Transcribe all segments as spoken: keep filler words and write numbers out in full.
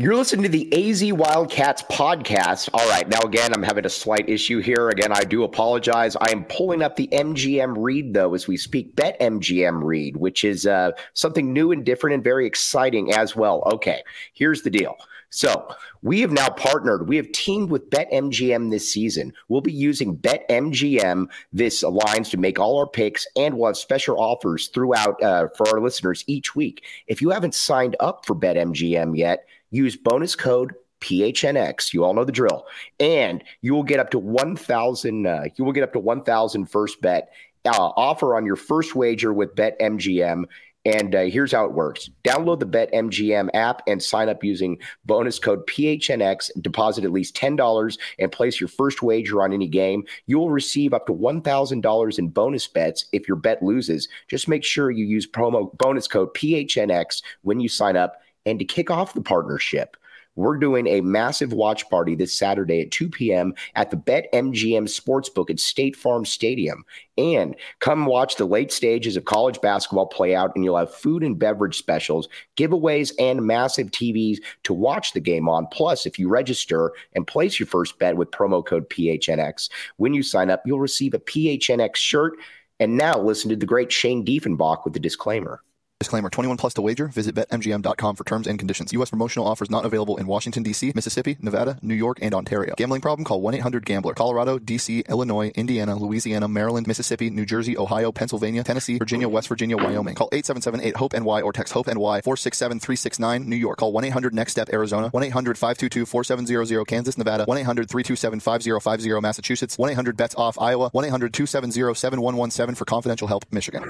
You're listening to the A Z Wildcats podcast. All right. Now, again, I'm having a slight issue here. Again, I do apologize. I am pulling up the M G M read, though, as we speak. BetMGM read, which is uh, something new and different and very exciting as well. Okay, here's the deal. So we have now partnered. We have teamed with BetMGM this season. We'll be using BetMGM, this alliance, to make all our picks, and we'll have special offers throughout uh, for our listeners each week. If you haven't signed up for BetMGM yet, use bonus code P H N X. You all know the drill. And you will get up to one thousand uh, you will get up to one thousand first bet uh, offer on your first wager with BetMGM. And uh, here's how it works. Download the BetMGM app and sign up using bonus code P H N X. Deposit at least ten dollars and place your first wager on any game. You will receive up to one thousand dollars in bonus bets if your bet loses. Just make sure you use promo bonus code P H N X when you sign up. And to kick off the partnership, we're doing a massive watch party this Saturday at two p.m. at the BetMGM Sportsbook at State Farm Stadium. And come watch the late stages of college basketball play out, and you'll have food and beverage specials, giveaways, and massive T Vs to watch the game on. Plus, if you register and place your first bet with promo code P H N X, when you sign up, you'll receive a P H N X shirt. And now listen to the great Shane Diefenbach with the disclaimer. Disclaimer, twenty-one plus to wager. Visit Bet M G M dot com for terms and conditions. U S promotional offers not available in Washington, D C, Mississippi, Nevada, New York, and Ontario. Gambling problem? Call one eight hundred gambler. Colorado, D C, Illinois, Indiana, Louisiana, Maryland, Mississippi, New Jersey, Ohio, Pennsylvania, Tennessee, Virginia, West Virginia, Wyoming. Call eight seven seven eight hope N Y or text HOPE-NY four six seven three six nine, New York. Call one eight hundred next step Arizona. one eight hundred five two two four seven zero zero, Kansas, Nevada. one eight hundred three two seven five zero five zero, Massachusetts. one eight hundred bets off, Iowa. one eight hundred two seven zero seven one one seven for confidential help, Michigan.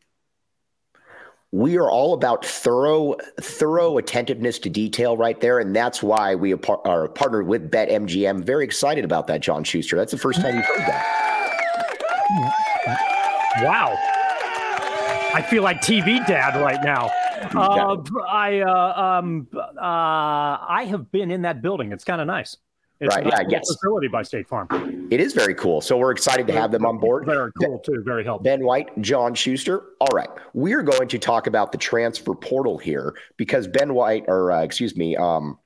We are all about thorough, thorough attentiveness to detail right there, and that's why we are partnered with BetMGM. Very excited about that, John Schuster. That's the first time you've heard that. Wow. I feel like T V dad right now. Uh, I uh, um, uh, I have been in that building. It's kind of nice. It's right, a nice yeah, yes. facility by State Farm. It is very cool. So we're excited to have them on board. Very cool, too. Very helpful. Ben White, John Schuster. All right. We're going to talk about the transfer portal here because Ben White, or uh, excuse me, um,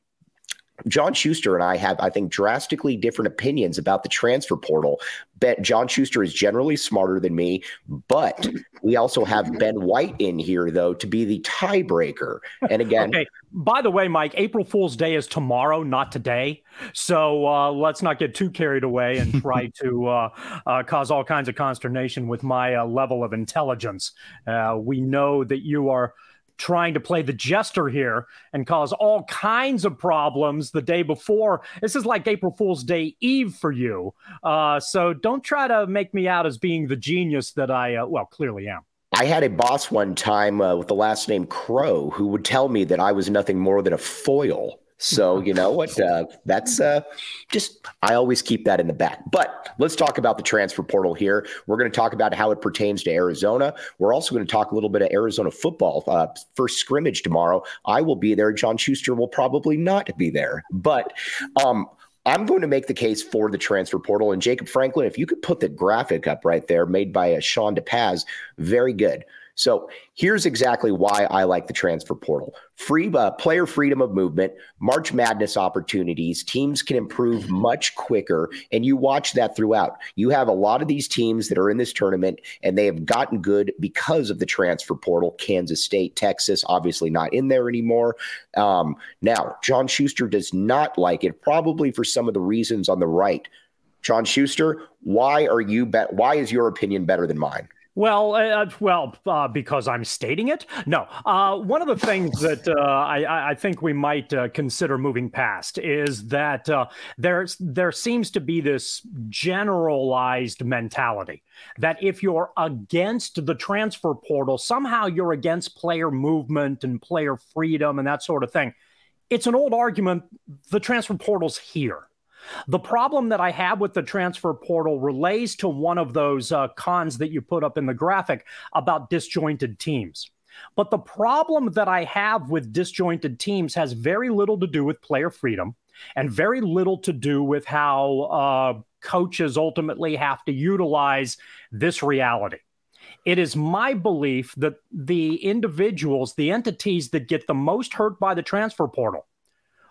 John Schuster and I have, I think, drastically different opinions about the transfer portal. Ben, John Schuster is generally smarter than me, but we also have Ben White in here, though, to be the tiebreaker. And again, okay. By the way, Mike, April Fool's Day is tomorrow, not today. So uh, let's not get too carried away and try to uh, uh, cause all kinds of consternation with my uh, level of intelligence. Uh, we know that you are trying to play the jester here and cause all kinds of problems the day before. This is like April Fool's Day Eve for you. Uh, so don't try to make me out as being the genius that I, uh, well, clearly am. I had a boss one time uh, with the last name Crow who would tell me that I was nothing more than a foil. So, you know what, uh, that's uh, just, I always keep that in the back. But let's talk about the transfer portal here. We're going to talk about how it pertains to Arizona. We're also going to talk a little bit of Arizona football. Uh, first scrimmage tomorrow. I will be there. John Schuster will probably not be there. But um, I'm going to make the case for the transfer portal. And Jacob Franklin, if you could put the graphic up right there, made by uh, Sean DePaz, very good. So here's exactly why I like the transfer portal. Free uh, player freedom of movement, March Madness opportunities, teams can improve much quicker, and you watch that throughout. You have a lot of these teams that are in this tournament, and they have gotten good because of the transfer portal. Kansas State, Texas, obviously not in there anymore. Um, now, John Schuster does not like it, probably for some of the reasons on the right. John Schuster, why are you? Be- why is your opinion better than mine? Well, uh, well, uh, because I'm stating it. No, uh, one of the things that uh, I, I think we might uh, consider moving past is that uh, there's there seems to be this generalized mentality that if you're against the transfer portal, somehow you're against player movement and player freedom and that sort of thing. It's an old argument. The transfer portal's here. The problem that I have with the transfer portal relates to one of those uh, cons that you put up in the graphic about disjointed teams. But the problem that I have with disjointed teams has very little to do with player freedom and very little to do with how uh, coaches ultimately have to utilize this reality. It is my belief that the individuals, the entities that get the most hurt by the transfer portal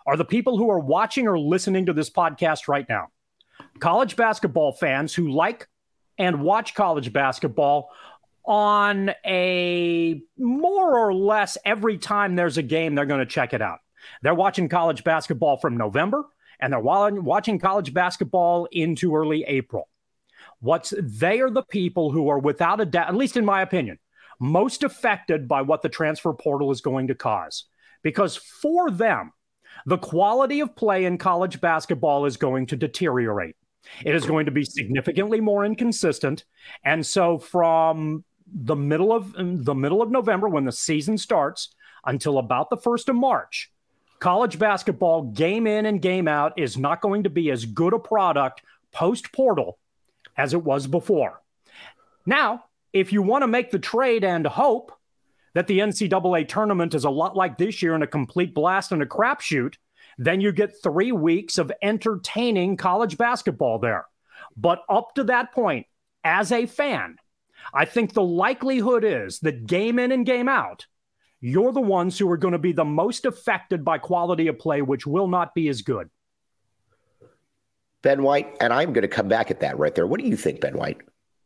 are the people who are watching or listening to this podcast right now. College basketball fans who like and watch college basketball on a more or less every time there's a game, they're going to check it out. They're watching college basketball from November, and they're watching college basketball into early April. What's they are the people who are, without a doubt, at least in my opinion, most affected by what the transfer portal is going to cause. Because for them, the quality of play in college basketball is going to deteriorate. It is going to be significantly more inconsistent. And so from the middle of the middle of November, when the season starts, until about the first of March, college basketball game in and game out is not going to be as good a product post-portal as it was before. Now, if you want to make the trade and hope that the N C double A tournament is a lot like this year and a complete blast and a crapshoot, then you get three weeks of entertaining college basketball there. But up to that point, as a fan, I think the likelihood is that game in and game out, you're the ones who are going to be the most affected by quality of play, which will not be as good. Ben White, and I'm going to come back at that right there. What do you think, Ben White?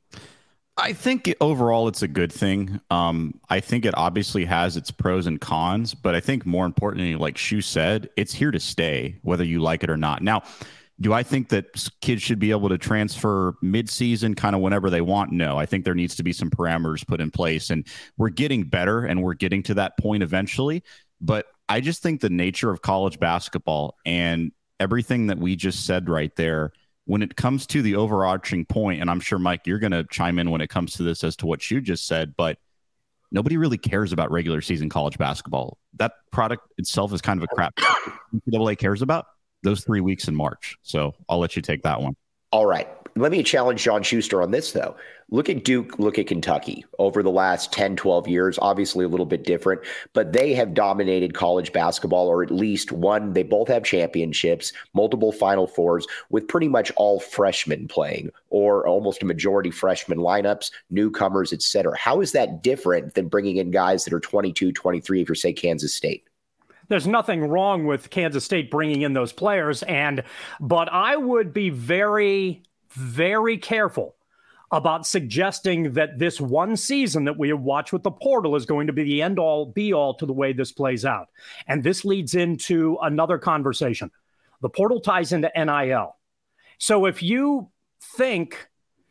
I think overall it's a good thing. Um, I think it obviously has its pros and cons, but I think more importantly, like Shu said, it's here to stay, whether you like it or not. Now, do I think that kids should be able to transfer mid-season kind of whenever they want? No, I think there needs to be some parameters put in place, and we're getting better and we're getting to that point eventually. But I just think the nature of college basketball and everything that we just said right there, when it comes to the overarching point, and I'm sure, Mike, you're going to chime in when it comes to this as to what you just said, but nobody really cares about regular season college basketball. That product itself is kind of a crap. N C double A cares about those three weeks in March. So I'll let you take that one. All right. Let me challenge John Schuster on this, though. Look at Duke, look at Kentucky over the last ten, twelve years, obviously a little bit different, but they have dominated college basketball, or at least one. They both have championships, multiple Final Fours, with pretty much all freshmen playing, or almost a majority freshman lineups, newcomers, et cetera. How is that different than bringing in guys that are twenty-two, twenty-three, if you're, say, Kansas State? There's nothing wrong with Kansas State bringing in those players, and but I would be very, very careful about suggesting that this one season that we have watched with the portal is going to be the end-all, be-all to the way this plays out. And this leads into another conversation. The portal ties into N I L. So if you think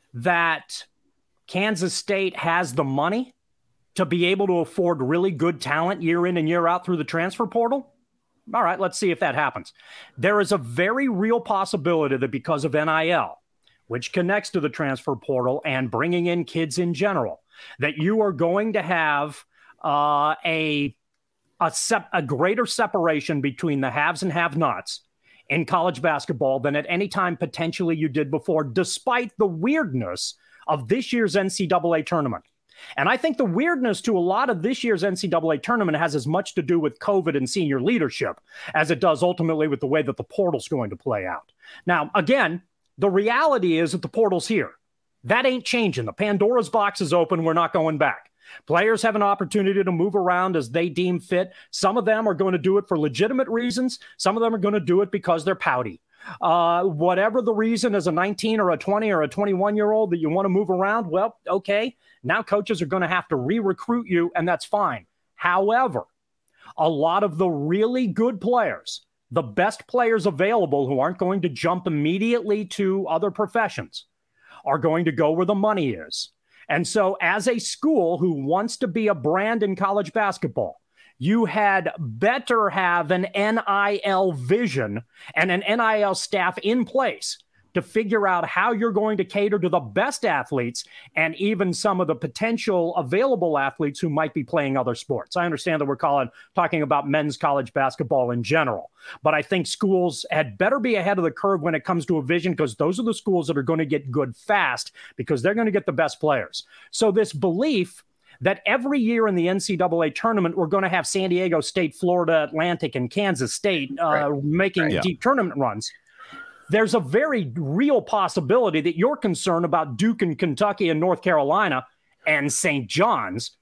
that Kansas State has the money to be able to afford really good talent year in and year out through the transfer portal, all right, let's see if that happens. There is a very real possibility that because of N I L, which connects to the transfer portal and bringing in kids in general, that you are going to have uh, a a, sep- a greater separation between the haves and have-nots in college basketball than at any time potentially you did before, despite the weirdness of this year's N C double A tournament. And I think the weirdness to a lot of this year's N C double A tournament has as much to do with COVID and senior leadership as it does ultimately with the way that the portal's going to play out. Now, again, the reality is that the portal's here. That ain't changing. The Pandora's box is open. We're not going back. Players have an opportunity to move around as they deem fit. Some of them are going to do it for legitimate reasons. Some of them are going to do it because they're pouty. Uh, whatever the reason, as a nineteen or a twenty or a twenty-one-year-old that you want to move around, well, okay, now coaches are going to have to re-recruit you, and that's fine. However, a lot of the really good players, the best players available who aren't going to jump immediately to other professions, are going to go where the money is. And so as a school who wants to be a brand in college basketball, you had better have an N I L vision and an N I L staff in place to figure out how you're going to cater to the best athletes and even some of the potential available athletes who might be playing other sports. I understand that we're calling, talking about men's college basketball in general, but I think schools had better be ahead of the curve when it comes to a vision, because those are the schools that are going to get good fast because they're going to get the best players. So this belief that every year in the N C double A tournament, we're going to have San Diego State, Florida Atlantic, and Kansas State uh, right. making right. yeah. deep tournament runs, there's a very real possibility that you're concerned about Duke and Kentucky and North Carolina and Saint John's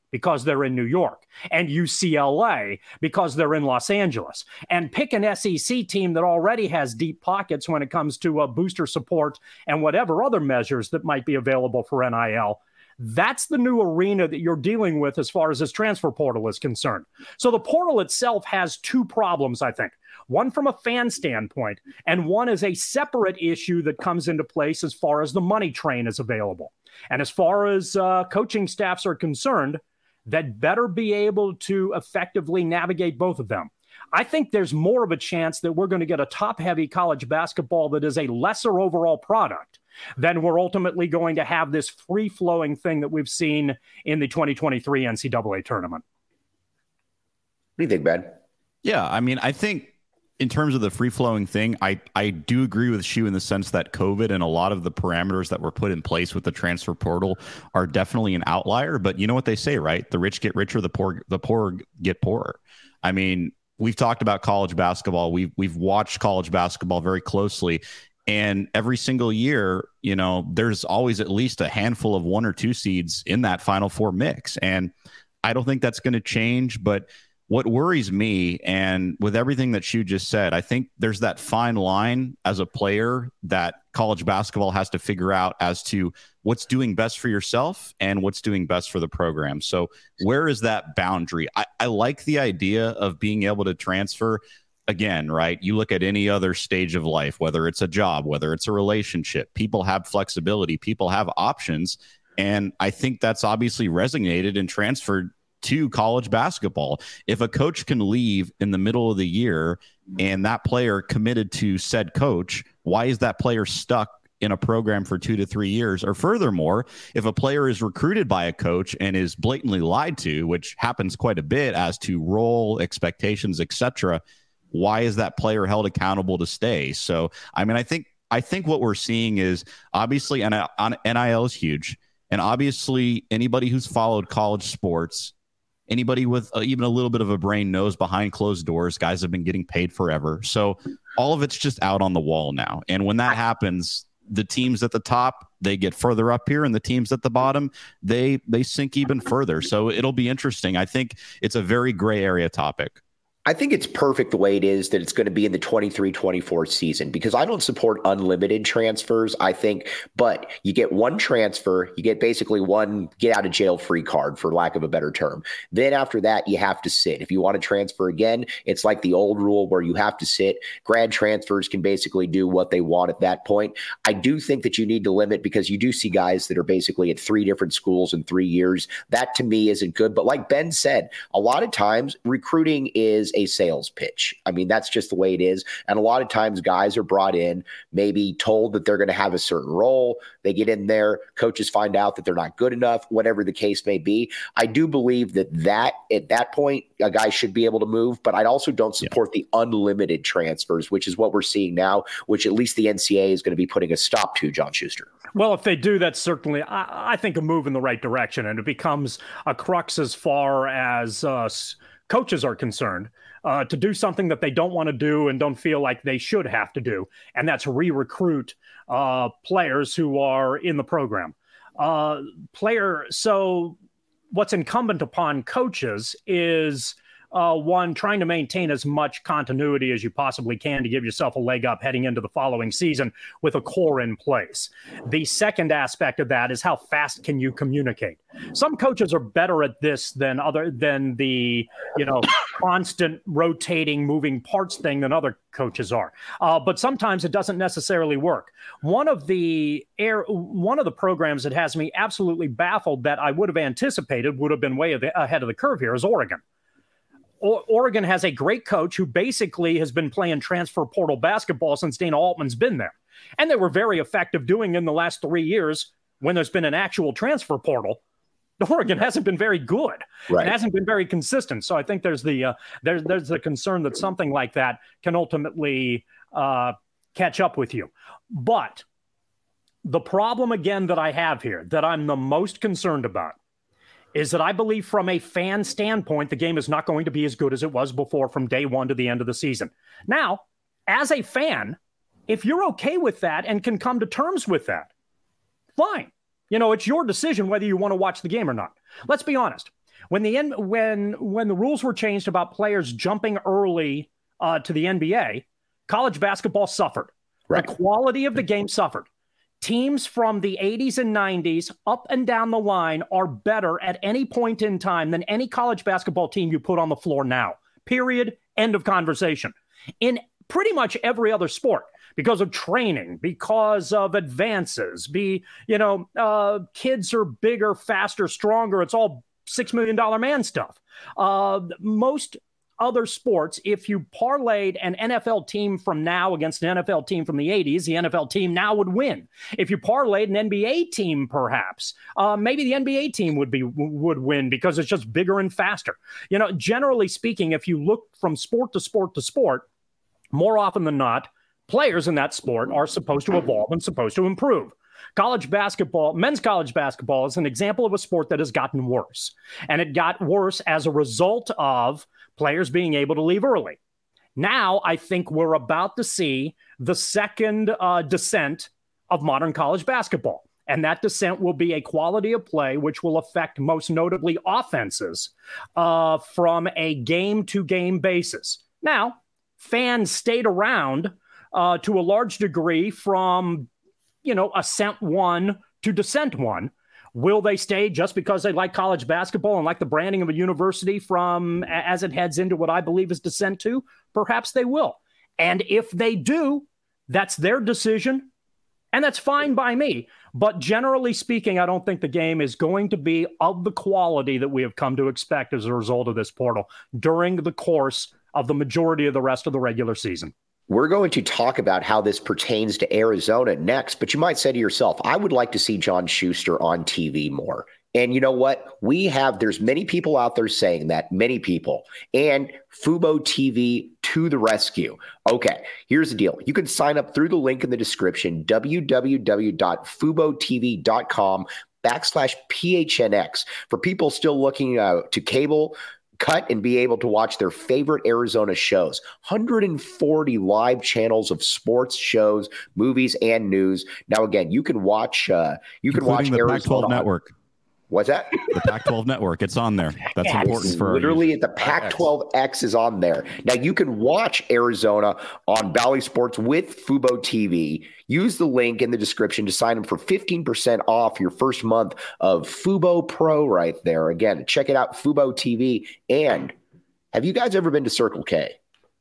because they're in New York, and U C L A because they're in Los Angeles. And pick an S E C team that already has deep pockets when it comes to uh, booster support and whatever other measures that might be available for N I L. That's the new arena that you're dealing with as far as this transfer portal is concerned. So the portal itself has two problems, I think. One from a fan standpoint, and one is a separate issue that comes into place as far as the money train is available. And as far as uh, coaching staffs are concerned, that better be able to effectively navigate both of them. I think there's more of a chance that we're going to get a top-heavy college basketball that is a lesser overall product than we're ultimately going to have this free-flowing thing that we've seen in the twenty twenty-three N C double A tournament. What do you think, Ben? Yeah, I mean, I think in terms of the free-flowing thing, I, I do agree with Shu in the sense that COVID and a lot of the parameters that were put in place with the transfer portal are definitely an outlier. But you know what they say, right? The rich get richer, the poor the poor get poorer. I mean, we've talked about college basketball. We've we've watched college basketball very closely. And every single year, you know, there's always at least a handful of one or two seeds in that Final Four mix. And I don't think that's going to change. But what worries me, and with everything that Shu just said, I think there's that fine line as a player that college basketball has to figure out as to what's doing best for yourself and what's doing best for the program. So where is that boundary? I, I like the idea of being able to transfer. Again, right? You look at any other stage of life, whether it's a job, whether it's a relationship, people have flexibility, people have options. And I think that's obviously resonated and transferred to college basketball. If a coach can leave in the middle of the year and that player committed to said coach, why is that player stuck in a program for two to three years? Or furthermore, if a player is recruited by a coach and is blatantly lied to, which happens quite a bit as to role, expectations, et cetera, why is that player held accountable to stay? So, I mean, I think I think what we're seeing is obviously N I L is huge. And obviously anybody who's followed college sports, anybody with uh, even a little bit of a brain knows behind closed doors, guys have been getting paid forever. So all of it's just out on the wall now. And when that happens, the teams at the top, they get further up here, and the teams at the bottom, they they sink even further. So it'll be interesting. I think it's a very gray area topic. I think it's perfect the way it is that it's going to be in the twenty-three twenty-four season, because I don't support unlimited transfers. I think, but you get one transfer, you get basically one get out of jail free card, for lack of a better term. Then after that, you have to sit. If you want to transfer again, it's like the old rule where you have to sit. Grad transfers can basically do what they want at that point. I do think that you need to limit, because you do see guys that are basically at three different schools in three years. That to me isn't good. But like Ben said, a lot of times recruiting is a sales pitch. I mean, that's just the way it is. And a lot of times guys are brought in, maybe told that they're going to have a certain role. They get in there, coaches find out that they're not good enough, whatever the case may be. I do believe that that at that point, a guy should be able to move, but I also don't support yeah. the unlimited transfers, which is what we're seeing now, which at least the N C A A is going to be putting a stop to, John Schuster. Well, if they do, that's certainly, I, I think, a move in the right direction, and it becomes a crux as far as uh, coaches are concerned. Uh, to do something that they don't want to do and don't feel like they should have to do, and that's re-recruit uh, players who are in the program. Uh, player. So what's incumbent upon coaches is, uh, one, trying to maintain as much continuity as you possibly can to give yourself a leg up heading into the following season with a core in place. The second aspect of that is how fast can you communicate? Some coaches are better at this than other than the, you know, constant rotating moving parts thing than other coaches are. Uh, but sometimes it doesn't necessarily work. One of the air, one of the programs that has me absolutely baffled that I would have anticipated would have been way ahead of the curve here is Oregon. Oregon has a great coach who basically has been playing transfer portal basketball since Dana Altman's been there. And they were very effective doing in the last three years when there's been an actual transfer portal. Oregon hasn't been very good. Right. It hasn't been very consistent. So I think there's the uh, there's there's the concern that something like that can ultimately uh, catch up with you. But the problem again that I have here, that I'm the most concerned about, is that I believe from a fan standpoint, the game is not going to be as good as it was before from day one to the end of the season. Now, as a fan, if you're okay with that and can come to terms with that, fine. You know, it's your decision whether you want to watch the game or not. Let's be honest. When the N- when when the rules were changed about players jumping early uh, to the N B A, college basketball suffered. Right. The quality of the game suffered. Teams from the eighties and nineties up and down the line are better at any point in time than any college basketball team you put on the floor now. Period. End of conversation. In pretty much every other sport, because of training, because of advances, be, you know, uh, kids are bigger, faster, stronger. It's all six million dollars man stuff. Uh, most other sports, if you parlayed an N F L team from now against an N F L team from the eighties, the N F L team now would win. If you parlayed an N B A team, perhaps, uh, maybe the N B A team would be would win because it's just bigger and faster. You know, generally speaking, if you look from sport to sport to sport, more often than not, players in that sport are supposed to evolve and supposed to improve. College basketball, men's college basketball is an example of a sport that has gotten worse. And it got worse as a result of players being able to leave early. Now, I think we're about to see the second uh, descent of modern college basketball. And that descent will be a quality of play which will affect most notably offenses uh, from a game-to-game basis. Now, fans stayed around uh, to a large degree from, you know, ascent one to descent one. Will they stay just because they like college basketball and like the branding of a university from as it heads into what I believe is descent two? Perhaps they will. And if they do, that's their decision. And that's fine by me. But generally speaking, I don't think the game is going to be of the quality that we have come to expect as a result of this portal during the course of the majority of the rest of the regular season. We're going to talk about how this pertains to Arizona next, but you might say to yourself, I would like to see John Schuster on T V more. And you know what? We have, there's many people out there saying that, many people, and Fubo T V to the rescue. Okay, here's the deal. You can sign up through the link in the description, www.fubotv.com backslash PHNX. For people still looking uh, to cable, cut and be able to watch their favorite Arizona shows. one hundred forty live channels of sports shows, movies, and news. Now, again, you can watch. Uh, you can Including watch the Arizona Pac twelve network. What's that? The Pac twelve network. It's on there. That's yeah, important for literally the Pac twelve X is on there. Now you can watch Arizona on Bally Sports with Fubo T V. Use the link in the description to sign up for fifteen percent off your first month of Fubo Pro right there. Again, check it out, Fubo T V. And have you guys ever been to Circle K?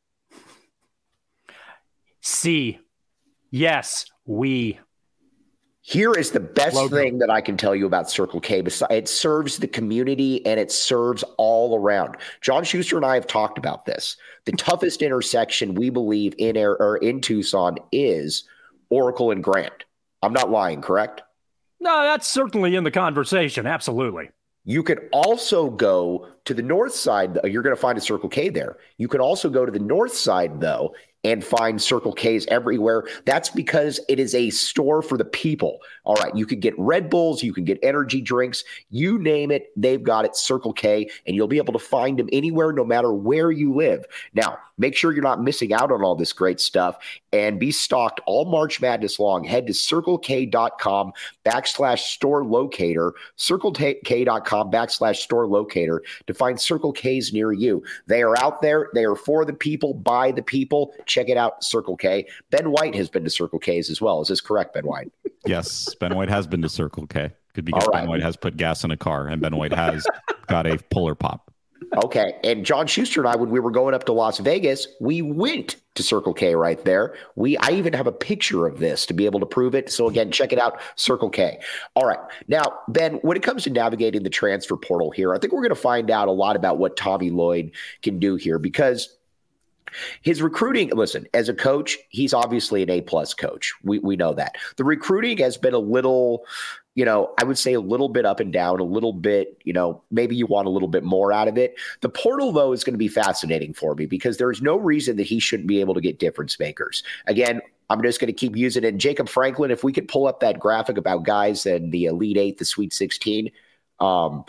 C. Yes, we. Here is the best Logo. thing that I can tell you about Circle K. It serves the community and it serves all around. John Schuster and I have talked about this. The toughest intersection we believe in air, or in Tucson is Oracle and Grant. I'm not lying, correct? No, that's certainly in the conversation. Absolutely. You could also go to the north side. You're going to find a Circle K there. You can also go to the north side, though, and find Circle K's everywhere. That's because it is a store for the people. All right, you could get Red Bulls, you can get energy drinks, you name it, they've got it, Circle K, and you'll be able to find them anywhere, no matter where you live. Now, make sure you're not missing out on all this great stuff and be stocked all March Madness long. Head to circlek.com backslash store locator, circlek.com backslash store locator to find Circle K's near you. They are out there. They are for the people, by the people. Check it out, Circle K. Ben White has been to Circle K's as well. Is this correct, Ben White? Yes, Ben White has been to Circle K. Could be because right. Ben White has put gas in a car, and Ben White has got a Polar Pop. Okay, and John Schuster and I, when we were going up to Las Vegas, we went to Circle K right there. We, I even have a picture of this to be able to prove it. So again, check it out, Circle K. All right, now, Ben, when it comes to navigating the transfer portal here, I think we're going to find out a lot about what Tommy Lloyd can do here, because his recruiting, listen, as a coach, he's obviously an A-plus coach. We we know that. The recruiting has been a little, you know, I would say a little bit up and down, a little bit, you know, maybe you want a little bit more out of it. The portal, though, is going to be fascinating for me because there's no reason that he shouldn't be able to get difference makers. Again, I'm just going to keep using it. And Jacob Franklin, if we could pull up that graphic about guys in the Elite Eight, the Sweet sixteen, um,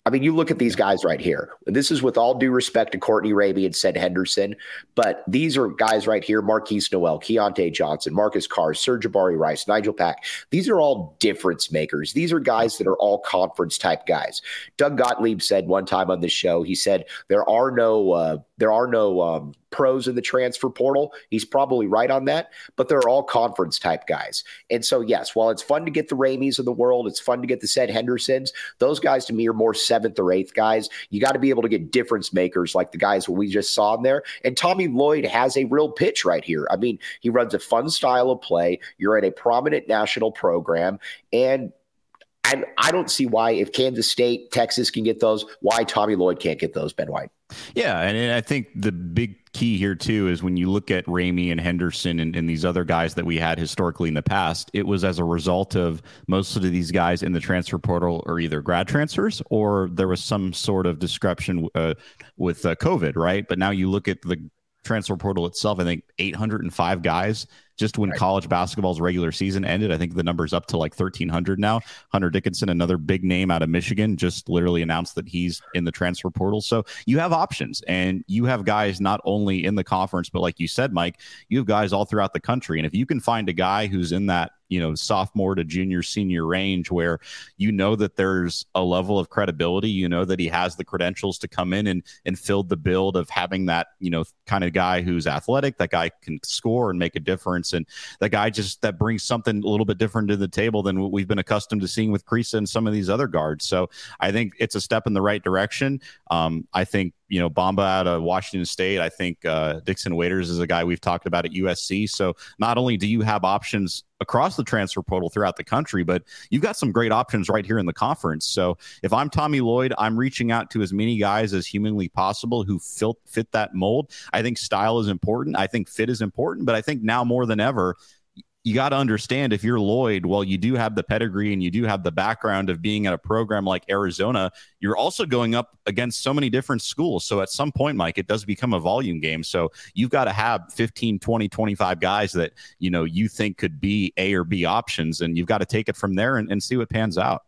I mean, you look at these guys right here. This is with all due respect to Courtney Ramey and Seth Henderson, but these are guys right here: Marquise Noel, Keontae Johnson, Marcus Carr, Sir'Jabari Rice, Nigel Pack. These are all difference makers. These are guys that are all conference type guys. Doug Gottlieb said one time on this show, he said there are no uh, there are no um, pros in the transfer portal. He's probably right on that, but they're all conference type guys. And so, yes, while it's fun to get the Rameys of the world, it's fun to get the Seth Hendersons. Those guys to me are more seventh or eighth guys. You got to be able to get difference makers like the guys we just saw in there. And Tommy Lloyd has a real pitch right here. I mean, he runs a fun style of play. You're at a prominent national program, and I, I don't see why, if Kansas State, Texas can get those, why Tommy Lloyd can't get those, Ben White. Yeah, and I think the big key here, too, is when you look at Ramey and Henderson and, and these other guys that we had historically in the past, it was as a result of most of these guys in the transfer portal are either grad transfers or there was some sort of disruption uh, with uh, COVID, right? But now you look at the transfer portal itself, I think eight hundred five guys just when right. college basketball's regular season ended. I think the number's up to like thirteen hundred now. Hunter Dickinson, another big name out of Michigan, just literally announced that he's in the transfer portal. So you have options, and you have guys not only in the conference, but like you said, Mike, you have guys all throughout the country. And if you can find a guy who's in that, you know, sophomore to junior, senior range where you know that there's a level of credibility, you know that he has the credentials to come in and and fill the build of having that, you know, kind of guy who's athletic, that guy can score and make a difference. And that guy just that brings something a little bit different to the table than what we've been accustomed to seeing with Kriisa and some of these other guards. So I think it's a step in the right direction. Um, I think, you know, Bamba out of Washington State. I think uh, Dixon Waiters is a guy we've talked about at U S C. So not only do you have options across the transfer portal throughout the country, but you've got some great options right here in the conference. So if I'm Tommy Lloyd, I'm reaching out to as many guys as humanly possible who fit, fit that mold. I think style is important. I think fit is important. But I think now more than ever, you got to understand, if you're Lloyd, well, you do have the pedigree and you do have the background of being at a program like Arizona. You're also going up against so many different schools. So at some point, Mike, it does become a volume game. So you've got to have fifteen, twenty, twenty-five guys that, you know, you think could be A or B options, and you've got to take it from there and, and see what pans out.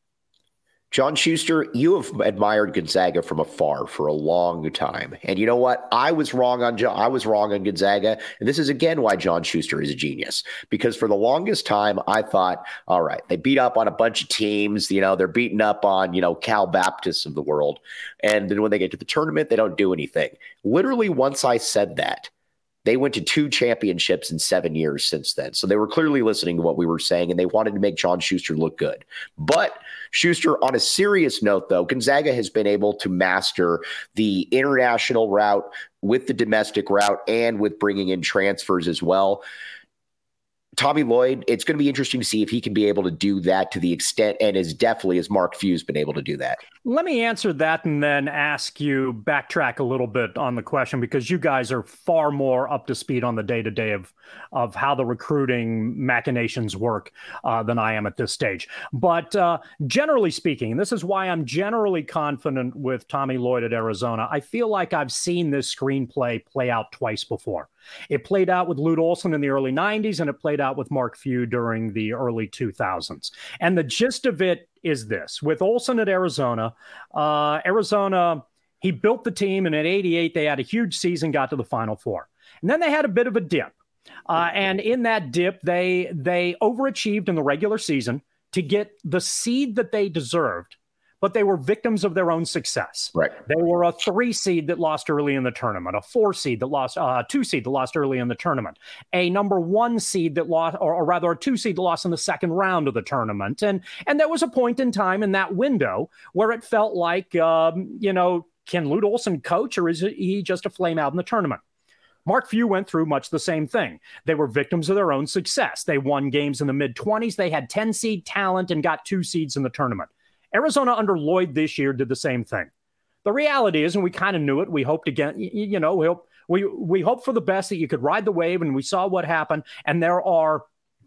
John Schuster, you have admired Gonzaga from afar for a long time. And you know what? I was wrong on John. I was wrong on Gonzaga. And this is again why John Schuster is a genius. Because for the longest time, I thought, all right, they beat up on a bunch of teams. You know, they're beating up on, you know, Cal Baptists of the world. And then when they get to the tournament, they don't do anything. Literally, once I said that, they went to two championships in seven years since then. So they were clearly listening to what we were saying, and they wanted to make John Schuster look good. But Schuster, on a serious note, though, Gonzaga has been able to master the international route with the domestic route and with bringing in transfers as well. Tommy Lloyd, it's going to be interesting to see if he can be able to do that to the extent and as definitely as Mark Few's been able to do that. Let me answer that and then ask you backtrack a little bit on the question, because you guys are far more up to speed on the day-to-day of, of how the recruiting machinations work uh, than I am at this stage. But uh, generally speaking, and this is why I'm generally confident with Tommy Lloyd at Arizona, I feel like I've seen this screenplay play out twice before. It played out with Lute Olson in the early nineties, and it played out with Mark Few during the early two thousands. And the gist of it is this. With Olson at Arizona, uh, Arizona, he built the team, and at eighty-eight, they had a huge season, got to the Final Four. And then they had a bit of a dip. Uh, and in that dip, they they overachieved in the regular season to get the seed that they deserved, but they were victims of their own success. Right. They were a three seed that lost early in the tournament, a four seed that lost, uh, two seed that lost early in the tournament, a number one seed that lost, or, or rather a two seed that lost in the second round of the tournament. And, and there was a point in time in that window where it felt like, um, you know, can Lute Olson coach, or is he just a flame out in the tournament? Mark Few went through much the same thing. They were victims of their own success. They won games in the mid twenties. They had ten seed talent and got two seeds in the tournament. Arizona under Lloyd this year did the same thing. The reality is, and we kind of knew it, we hoped again, you, you know, we hope, we, we hope for the best, that you could ride the wave, and we saw what happened. And there are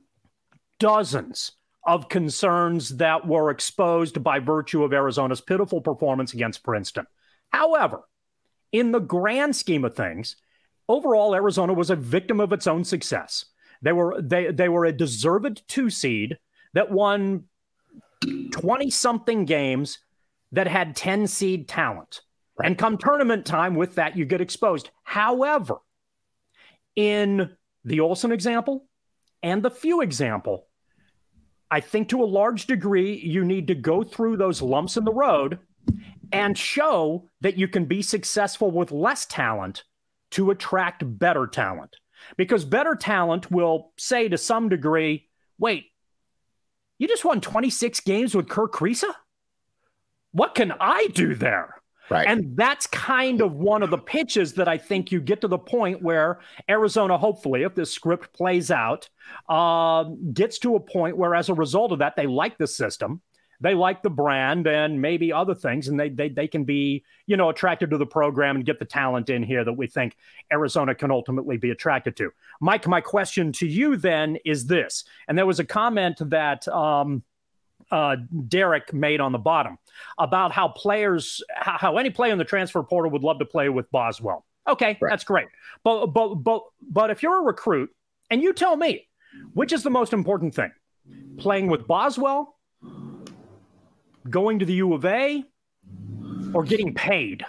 dozens of concerns that were exposed by virtue of Arizona's pitiful performance against Princeton. However, in the grand scheme of things, overall, Arizona was a victim of its own success. They were, they, they were a deserved two seed that won twenty-something games that had ten seed talent. Right. And come tournament time with that, you get exposed. However, in the Olsen example and the Few example, I think to a large degree, you need to go through those lumps in the road and show that you can be successful with less talent to attract better talent. Because better talent will say to some degree, wait, you just won twenty-six games with Kerr Kriisa? What can I do there? Right. And that's kind of one of the pitches that I think you get to the point where Arizona, hopefully, if this script plays out, uh, gets to a point where as a result of that, they like the system, they like the brand and maybe other things, and they, they, they can be, you know, attracted to the program and get the talent in here that we think Arizona can ultimately be attracted to. Mike, my question to you then is this, and there was a comment that um, uh, Derek made on the bottom about how players, how any player in the transfer portal would love to play with Boswell. Okay, right. That's great. But, but, but, but if you're a recruit, and you tell me, which is the most important thing? Playing with Boswell, going to the U of A, or getting paid?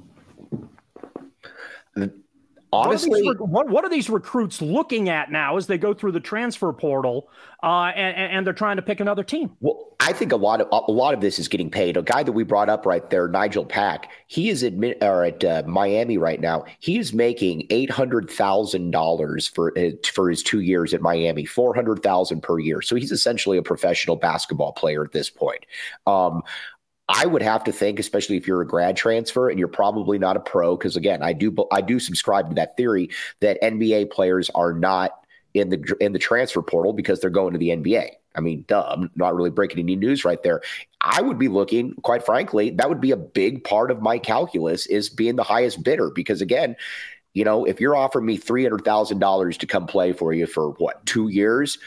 Honestly, what are, these, what, what are these recruits looking at now as they go through the transfer portal uh, and, and they're trying to pick another team? Well, I think a lot of a lot of this is getting paid. A guy that we brought up right there, Nigel Pack, he is admit or at uh, Miami right now. He is making eight hundred thousand dollars for for his two years at Miami, four hundred thousand per year. So he's essentially a professional basketball player at this point. Um, I would have to think, especially if you're a grad transfer and you're probably not a pro, because again, I do I do subscribe to that theory that N B A players are not in the in the transfer portal because they're going to the N B A. I mean, duh, I'm not really breaking any news right there. I would be looking, quite frankly, that would be a big part of my calculus is being the highest bidder, because again, you know, if you're offering me three hundred thousand dollars to come play for you for what, two years?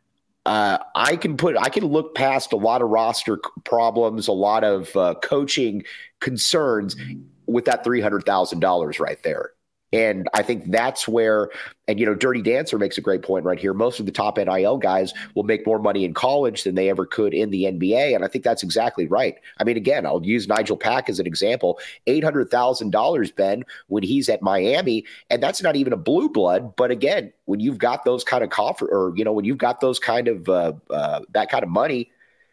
Uh, I can put, I can look past a lot of roster problems, a lot of uh, coaching concerns with that three hundred thousand dollars right there. And I think that's where, and, you know, Dirty Dancer makes a great point right here. Most of the top N I L guys will make more money in college than they ever could in the N B A. And I think that's exactly right. I mean, again, I'll use Nigel Pack as an example. eight hundred thousand dollars, Ben, when he's at Miami, and that's not even a blue blood. But again, when you've got those kind of confer- or, you know, when you've got those kind of, uh, uh, that kind of money,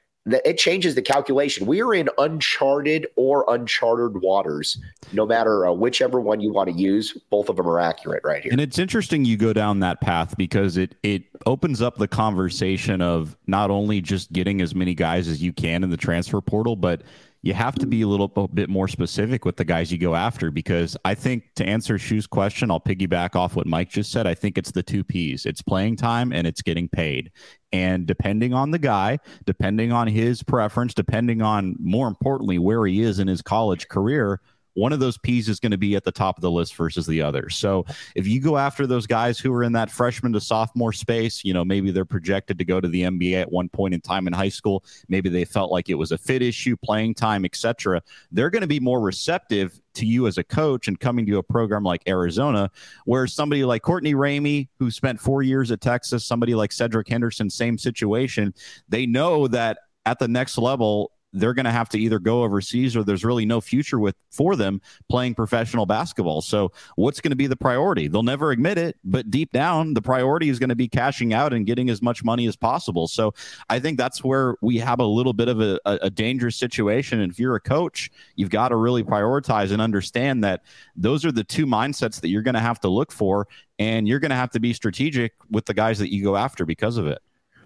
it changes the calculation. We are in uncharted or uncharted waters, no matter uh, whichever one you want to use. Both of them are accurate right here. And it's interesting you go down that path because it it opens up the conversation of not only just getting as many guys as you can in the transfer portal, but you have to be a little bit more specific with the guys you go after, because I think to answer Shu's question, I'll piggyback off what Mike just said. I think it's the two P's. It's playing time and it's getting paid. And depending on the guy, depending on his preference, depending on, more importantly, where he is in his college career, one of those P's is going to be at the top of the list versus the other. So if you go after those guys who are in that freshman to sophomore space, you know, maybe they're projected to go to the N B A at one point in time in high school. Maybe they felt like it was a fit issue, playing time, et cetera. They're going to be more receptive to you as a coach and coming to a program like Arizona, where somebody like Courtney Ramey, who spent four years at Texas, somebody like Cedric Henderson, same situation. They know that at the next level, they're going to have to either go overseas or there's really no future with for them playing professional basketball. So what's going to be the priority? They'll never admit it, but deep down, the priority is going to be cashing out and getting as much money as possible. So I think that's where we have a little bit of a, a, a dangerous situation. And if you're a coach, you've got to really prioritize and understand that those are the two mindsets that you're going to have to look for. And you're going to have to be strategic with the guys that you go after because of it.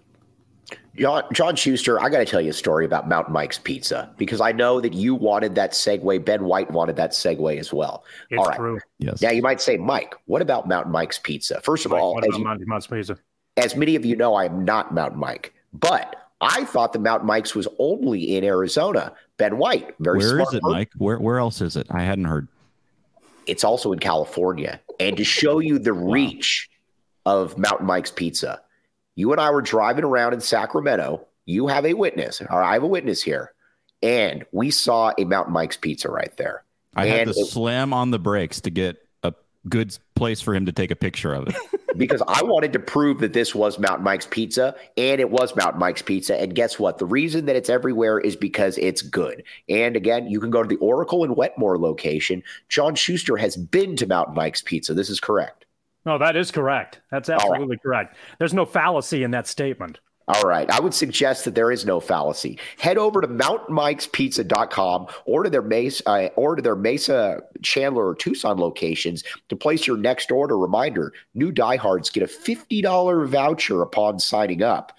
John, John Schuster, I got to tell you a story about Mountain Mike's Pizza, because I know that you wanted that segue. Ben White wanted that segue as well. It's all right. True. Yes. Now you might say, Mike, what about Mountain Mike's Pizza? First of Mike, all, what as, about you, Mountain Mike's Pizza? as many of you know, I am not Mountain Mike, but I thought the Mountain Mike's was only in Arizona. Ben White, very Where smart is it, person. Mike? Where where else is it? I hadn't heard. It's also in California. And to show you the wow. reach of Mountain Mike's Pizza, you and I were driving around in Sacramento. You have a witness, or I have a witness here, and we saw a Mountain Mike's Pizza right there. I and had to it, slam on the brakes to get a good place for him to take a picture of it. because I wanted to prove that this was Mountain Mike's Pizza, and it was Mountain Mike's Pizza. And guess what? The reason that it's everywhere is because it's good. And again, you can go to the Oracle and Wetmore location. John Schuster has been to Mountain Mike's Pizza. This is correct. No, that is correct. That's absolutely right. Correct. There's no fallacy in that statement. All right. I would suggest that there is no fallacy. Head over to mountain mikes pizza dot com or to their Mesa, uh, or to their Mesa, Chandler, or Tucson locations to place your next order. Reminder, new diehards get a fifty dollars voucher upon signing up.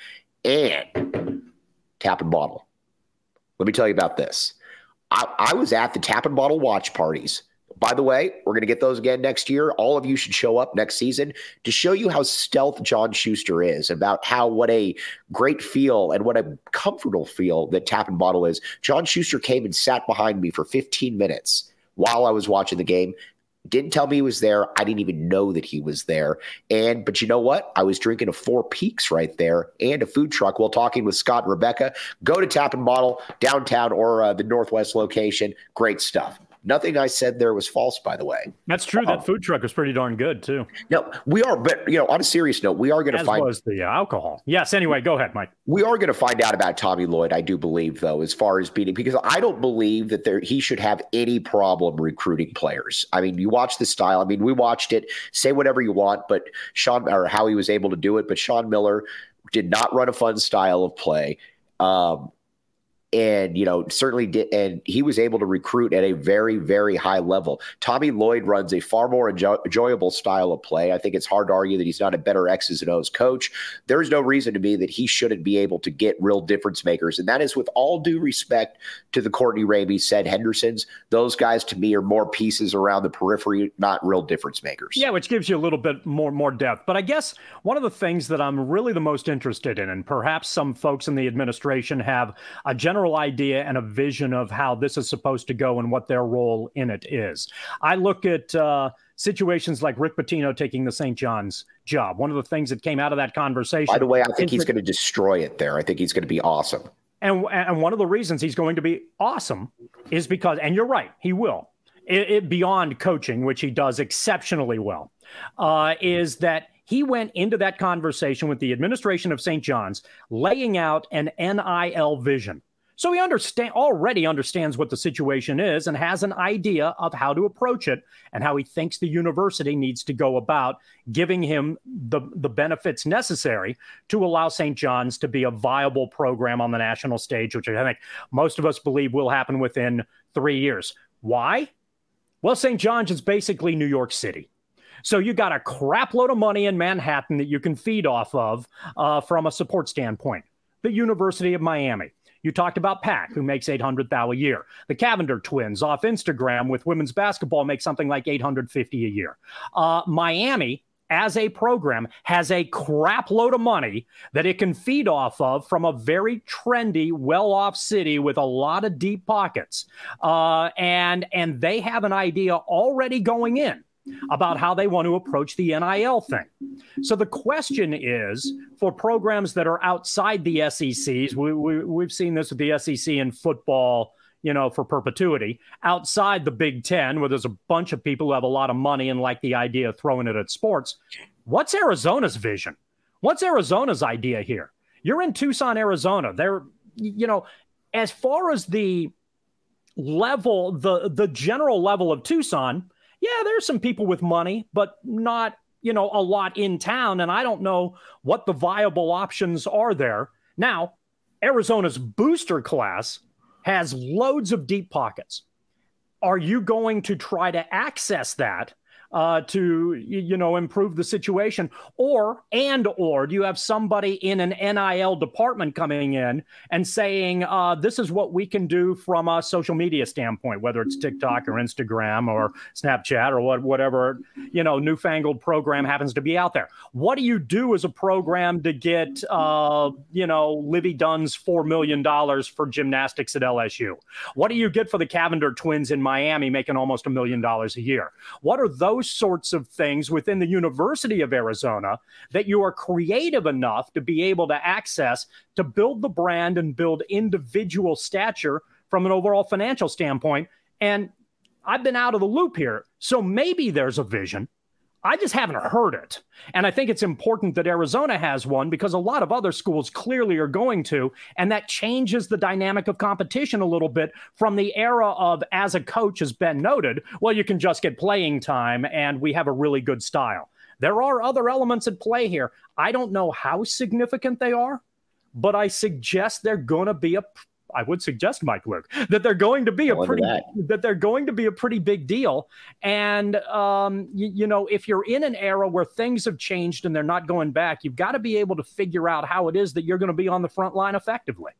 And Tap and Bottle. Let me tell you about this. I, I was at the Tap and Bottle watch parties. By the way, we're going to get those again next year. All of you should show up next season to show you how stealth John Schuster is, about how what a great feel and what a comfortable feel that Tap and Bottle is. John Schuster came and sat behind me for fifteen minutes while I was watching the game. Didn't tell me he was there. I didn't even know that he was there. And but you know what? I was drinking a Four Peaks right there and a food truck while talking with Scott and Rebecca. Go to Tap and Bottle downtown or uh, the Northwest location. Great stuff. Nothing I said there was false, by the way. That's true. That um, food truck was pretty darn good, too. No, we are. But, you know, on a serious note, we are going to find. As was the uh, alcohol. Yes. Anyway, go ahead, Mike. We are going to find out about Tommy Lloyd, I do believe, though, as far as beating, because I don't believe that there he should have any problem recruiting players. I mean, you watch the style. I mean, we watched it. Say whatever you want, but Sean, or how he was able to do it. But Sean Miller did not run a fun style of play. Um, And, you know, certainly did. And he was able to recruit at a very, very high level. Tommy Lloyd runs a far more enjoy- enjoyable style of play. I think it's hard to argue that he's not a better X's and O's coach. There's no reason to me that he shouldn't be able to get real difference makers. And that is with all due respect to the Courtney Ramey, said Hendersons. Those guys, to me, are more pieces around the periphery, not real difference makers. Yeah, which gives you a little bit more, more depth. But I guess one of the things that I'm really the most interested in, and perhaps some folks in the administration have a general idea and a vision of how this is supposed to go and what their role in it is. I look at uh, situations like Rick Pitino taking the Saint John's job. One of the things that came out of that conversation. By the way, I think he's going to destroy it there. I think he's going to be awesome. And, and one of the reasons he's going to be awesome is because, and you're right, he will, it, it beyond coaching, which he does exceptionally well, uh, is that he went into that conversation with the administration of Saint John's, laying out an N I L vision. So he understand already understands what the situation is and has an idea of how to approach it and how he thinks the university needs to go about giving him the, the benefits necessary to allow Saint John's to be a viable program on the national stage, which I think most of us believe will happen within three years. Why? Well, Saint John's is basically New York City. So you got a crap load of money in Manhattan that you can feed off of uh, from a support standpoint. The University of Miami. You talked about Pack, who makes eight hundred thousand dollars a year. The Cavender twins off Instagram with women's basketball make something like eight hundred fifty thousand dollars a year. Uh, Miami, as a program, has a crap load of money that it can feed off of from a very trendy, well-off city with a lot of deep pockets. Uh, and, and they have an idea already going in about how they want to approach the N I L thing. So the question is, for programs that are outside the S E Cs, we, we, we've seen this with the S E C in football, you know, for perpetuity, outside the Big Ten, where there's a bunch of people who have a lot of money and like the idea of throwing it at sports. What's Arizona's vision? What's Arizona's idea here? You're in Tucson, Arizona. They're, you know, as far as the level, the, the general level of Tucson, yeah, there's some people with money, but not, you know, a lot in town. And I don't know what the viable options are there. Now, Arizona's booster class has loads of deep pockets. Are you going to try to access that uh, to, you know, improve the situation? Or, and, or do you have somebody in an N I L department coming in and saying, uh, this is what we can do from a social media standpoint, whether it's TikTok or Instagram or Snapchat or what, whatever, you know, newfangled program happens to be out there. What do you do as a program to get, uh, you know, Livy Dunn's four million dollars for gymnastics at L S U? What do you get for the Cavender twins in Miami making almost a million dollars a year? What are those sorts of things within the University of Arizona that you are creative enough to be able to access to build the brand and build individual stature from an overall financial standpoint? And I've been out of the loop here. So maybe there's a vision. I just haven't heard it. And I think it's important that Arizona has one because a lot of other schools clearly are going to, and that changes the dynamic of competition a little bit from the era of, as a coach, as Ben noted, well, you can just get playing time and we have a really good style. There are other elements at play here. I don't know how significant they are, but I suggest they're going to be a I would suggest, Mike Luke, that they're going to be a pretty that. that they're going to be a pretty big deal. And um, you, you know, if you're in an era where things have changed and they're not going back, you've got to be able to figure out how it is that you're going to be on the front line effectively.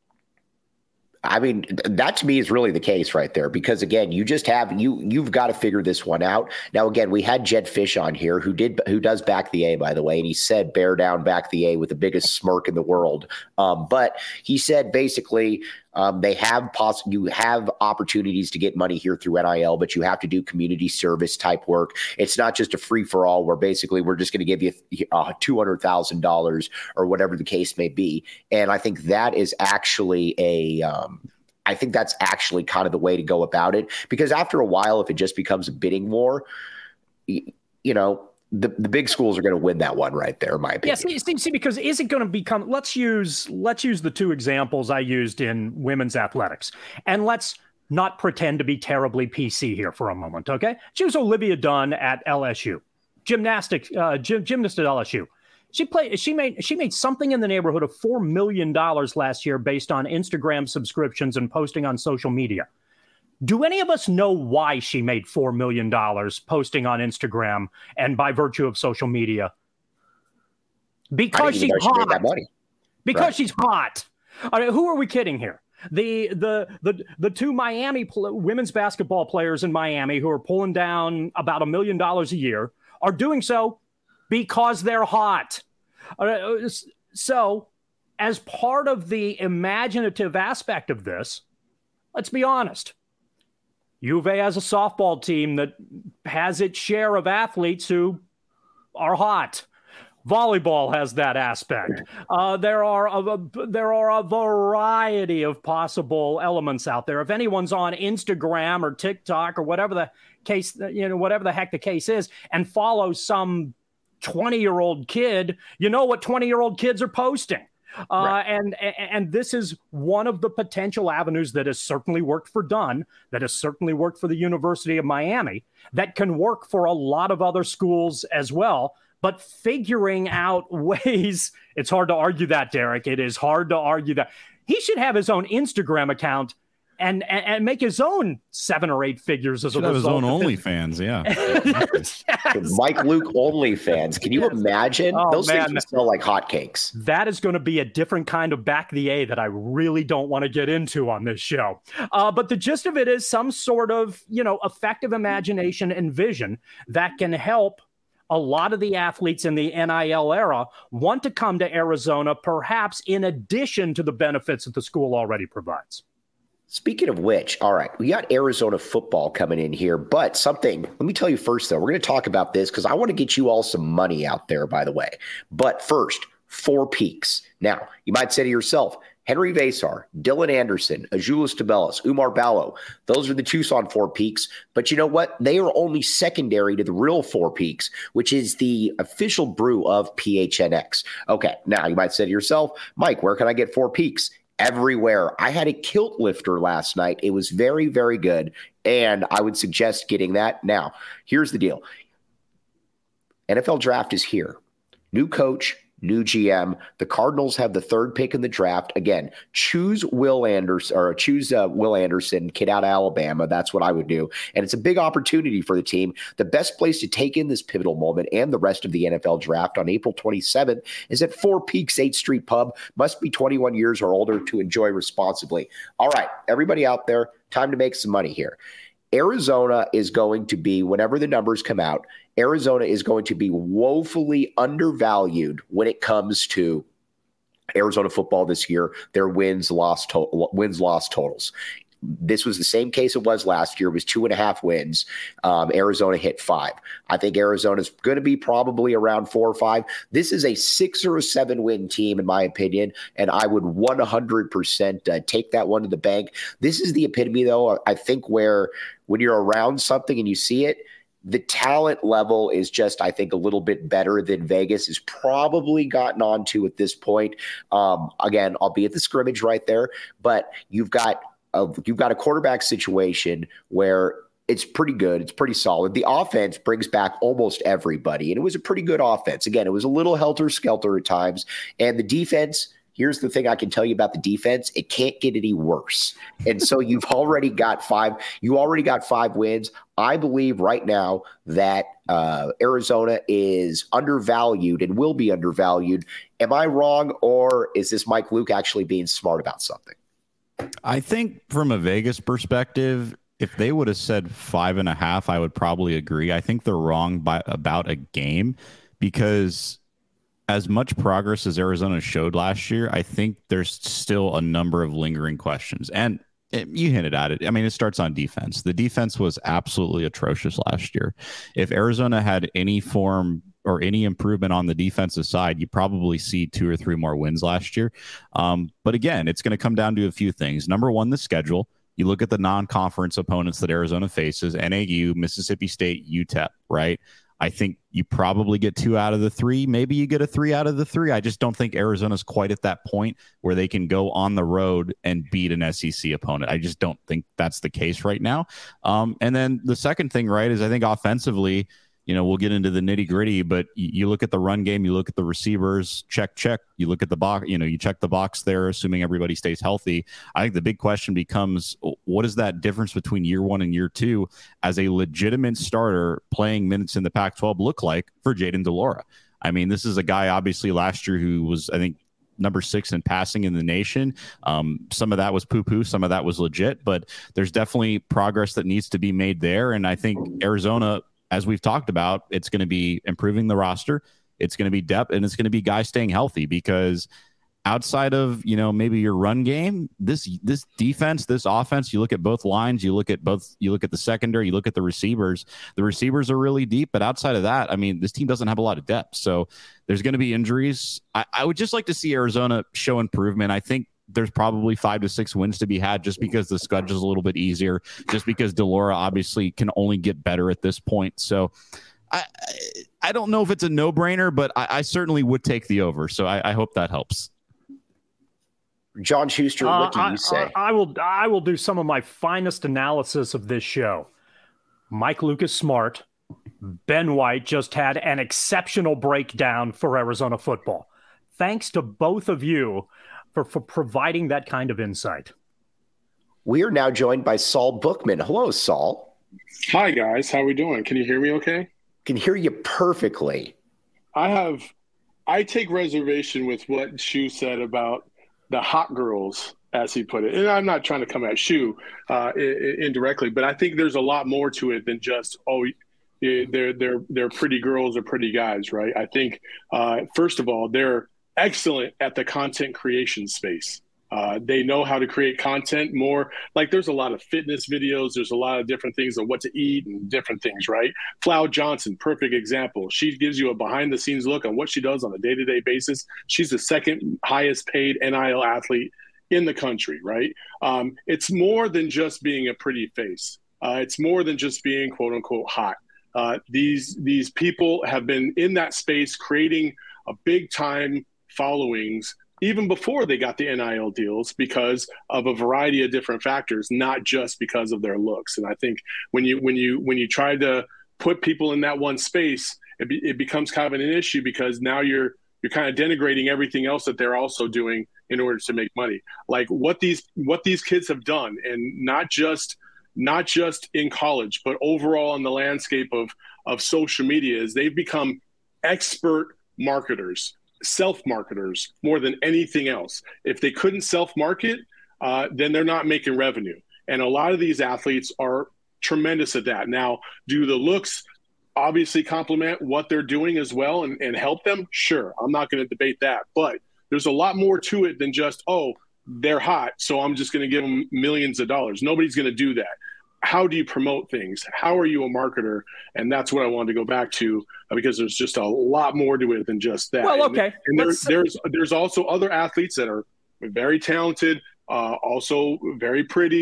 I mean, that to me is really the case right there, because again, you just have you you've got to figure this one out. Now, again, we had Jed Fish on here who did who does back the A, by the way, and he said bear down, back the A with the biggest smirk in the world. Um, but he said basically um, they have poss- you have opportunities to get money here through N I L, but you have to do community service type work. It's not just a free for all where basically we're just going to give you uh, two hundred thousand dollars or whatever the case may be. And I think that is actually a um, I think that's actually kind of the way to go about it, because after a while, if it just becomes a bidding war, you, you know, the, the big schools are going to win that one right there, in my opinion. Yes, yeah, see, because is it going to become, let's use, let's use the two examples I used in women's athletics, and let's not pretend to be terribly P C here for a moment. Okay. Choose Olivia Dunn at L S U, gymnastics, uh, gym, gymnast at L S U. She played. She made. She made something in the neighborhood of four million dollars last year, based on Instagram subscriptions and posting on social media. Do any of us know why she made four million dollars posting on Instagram and by virtue of social media? Because she's hot. She made that money. Because right. she's hot. I mean, who are we kidding here? The the the the two Miami pl- women's basketball players in Miami who are pulling down about a million dollars a year are doing so because they're hot. So, as part of the imaginative aspect of this, let's be honest. U of A has a softball team that has its share of athletes who are hot. Volleyball has that aspect. Uh, there are a, there are a variety of possible elements out there. If anyone's on Instagram or TikTok or whatever the case, you know, whatever the heck the case is, and follows some twenty-year-old kid, you know what twenty-year-old kids are posting. Uh, right. and, and this is one of the potential avenues that has certainly worked for Dunn, that has certainly worked for the University of Miami, that can work for a lot of other schools as well. But figuring out ways, it's hard to argue that, Derek. It is hard to argue that. He should have his own Instagram account And, and and make his own seven or eight figures as a result. His own OnlyFans, yeah. yes. Mike Luke OnlyFans. Can you yes. imagine? Oh, Those man. things would smell like hotcakes. That is going to be a different kind of back the A that I really don't want to get into on this show. Uh, but the gist of it is some sort of, you know, effective imagination and vision that can help a lot of the athletes in the N I L era want to come to Arizona, perhaps in addition to the benefits that the school already provides. Speaking of which, all right, we got Arizona football coming in here, but something, let me tell you first, though, we're going to talk about this because I want to get you all some money out there, by the way. But first, Four Peaks. Now, you might say to yourself, Henry Vasar, Dylan Anderson, Azuolas Tubelis, Umar Ballo, those are the Tucson Four Peaks. But you know what? They are only secondary to the real Four Peaks, which is the official brew of P H N X. Okay, now you might say to yourself, Mike, where can I get Four Peaks? Everywhere. I had a kilt lifter last night. It was very, very good. And I would suggest getting that. Now, here's the deal. N F L draft is here. New coach, new G M. The Cardinals have the third pick in the draft. Again, choose Will Anderson or choose uh, Will Anderson, kid out of Alabama. That's what I would do. And it's a big opportunity for the team. The best place to take in this pivotal moment and the rest of the N F L draft on April twenty-seventh is at Four Peaks eighth Street Pub. Must be twenty-one years or older to enjoy responsibly. All right, everybody out there, time to make some money here. Arizona is going to be, whenever the numbers come out, Arizona is going to be woefully undervalued when it comes to Arizona football this year, their wins, loss, to- wins, loss totals. This was the same case it was last year. It was two and a half wins. Um, Arizona hit five. I think Arizona is going to be probably around four or five. This is a six or a seven win team, in my opinion, and I would one hundred percent uh, take that one to the bank. This is the epitome, though, I think, where when you're around something and you see it, the talent level is just, I think, a little bit better than Vegas has probably gotten onto at this point. Um, again, I'll be at the scrimmage right there, but you've got a, you've got a quarterback situation where it's pretty good. It's pretty solid. The offense brings back almost everybody, and it was a pretty good offense. Again, it was a little helter-skelter at times, and the defense, here's the thing I can tell you about the defense. It can't get any worse. And so you've already got five, you already got five wins. I believe right now that uh, Arizona is undervalued and will be undervalued. Am I wrong, or is this Mike Luke actually being smart about something? I think from a Vegas perspective, if they would have said five and a half, I would probably agree. I think they're wrong by about a game, because as much progress as Arizona showed last year, I think there's still a number of lingering questions. And it, you hinted at it. I mean, it starts on defense. The defense was absolutely atrocious last year. If Arizona had any form or any improvement on the defensive side, you probably see two or three more wins last year. Um, but again, it's going to come down to a few things. Number one, the schedule. You look at the non-conference opponents that Arizona faces: N A U, Mississippi State, U T E P, right? I think you probably get two out of the three. Maybe you get a three out of the three. I just don't think Arizona's quite at that point where they can go on the road and beat an S E C opponent. I just don't think that's the case right now. Um, and then the second thing, right, is I think offensively, you know, we'll get into the nitty gritty, but you, you look at the run game, you look at the receivers, check, check. You look at the box, you know, you check the box there, assuming everybody stays healthy. I think the big question becomes, what is that difference between year one and year two as a legitimate starter playing minutes in the Pac twelve look like for Jayden de Laura? I mean, this is a guy obviously last year who was, I think, number six in passing in the nation. Um, some of that was poo-poo, some of that was legit, but there's definitely progress that needs to be made there. And I think Arizona, as we've talked about, it's going to be improving the roster. It's going to be depth, and it's going to be guys staying healthy, because outside of, you know, maybe your run game, this this defense, this offense, you look at both lines, you look at both, you look at the secondary, you look at the receivers. The receivers are really deep, but outside of that, I mean, this team doesn't have a lot of depth. So there's going to be injuries. I, I would just like to see Arizona show improvement. I think there's probably five to six wins to be had just because the schedule is a little bit easier, just because de Laura obviously can only get better at this point. So I I don't know if it's a no-brainer, but I, I certainly would take the over. So I, I hope that helps. John Schuster, what do uh, you I, say? I, I will I will do some of my finest analysis of this show. Mike Luke is smart. Ben White just had an exceptional breakdown for Arizona football. Thanks to both of you for, for providing that kind of insight. We are now joined by Saul Bookman. Hello, Saul. Hi, guys. How are we doing? Can you hear me okay? Can hear you perfectly. I have – I take reservation with what Shu said about the hot girls, as he put it. And I'm not trying to come at Shu uh, indirectly, but I think there's a lot more to it than just, oh, they're, they're, they're pretty girls or pretty guys, right? I think, uh, first of all, they're excellent at the content creation space. Uh, they know how to create content more. Like, there's a lot of fitness videos. There's a lot of different things on what to eat and different things, right? Flow Johnson, perfect example. She gives you a behind the scenes look on what she does on a day-to-day basis. She's the second highest paid N I L athlete in the country, right? Um, it's more than just being a pretty face. Uh, it's more than just being quote unquote hot. Uh, these, these people have been in that space creating a big time followings even before they got the N I L deals, because of a variety of different factors, not just because of their looks. And I think when you when you when you try to put people in that one space, it, be, it becomes kind of an issue, because now you're you're kind of denigrating everything else that they're also doing in order to make money. Like what these what these kids have done, and not just not just in college, but overall in the landscape of of social media, is they've become expert marketers. Self-marketers more than anything else. If they couldn't self-market, uh, then they're not making revenue. And a lot of these athletes are tremendous at that. Now, do the looks obviously complement what they're doing as well and, and help them? Sure, I'm not going to debate that. But there's a lot more to it than just, oh, they're hot, so I'm just going to give them millions of dollars. Nobody's going to do that. How do you promote things? How are you a marketer? And that's what I wanted to go back to, uh, because there's just a lot more to it than just that. Well, okay. And, and there, there's there's also other athletes that are very talented, uh, also very pretty,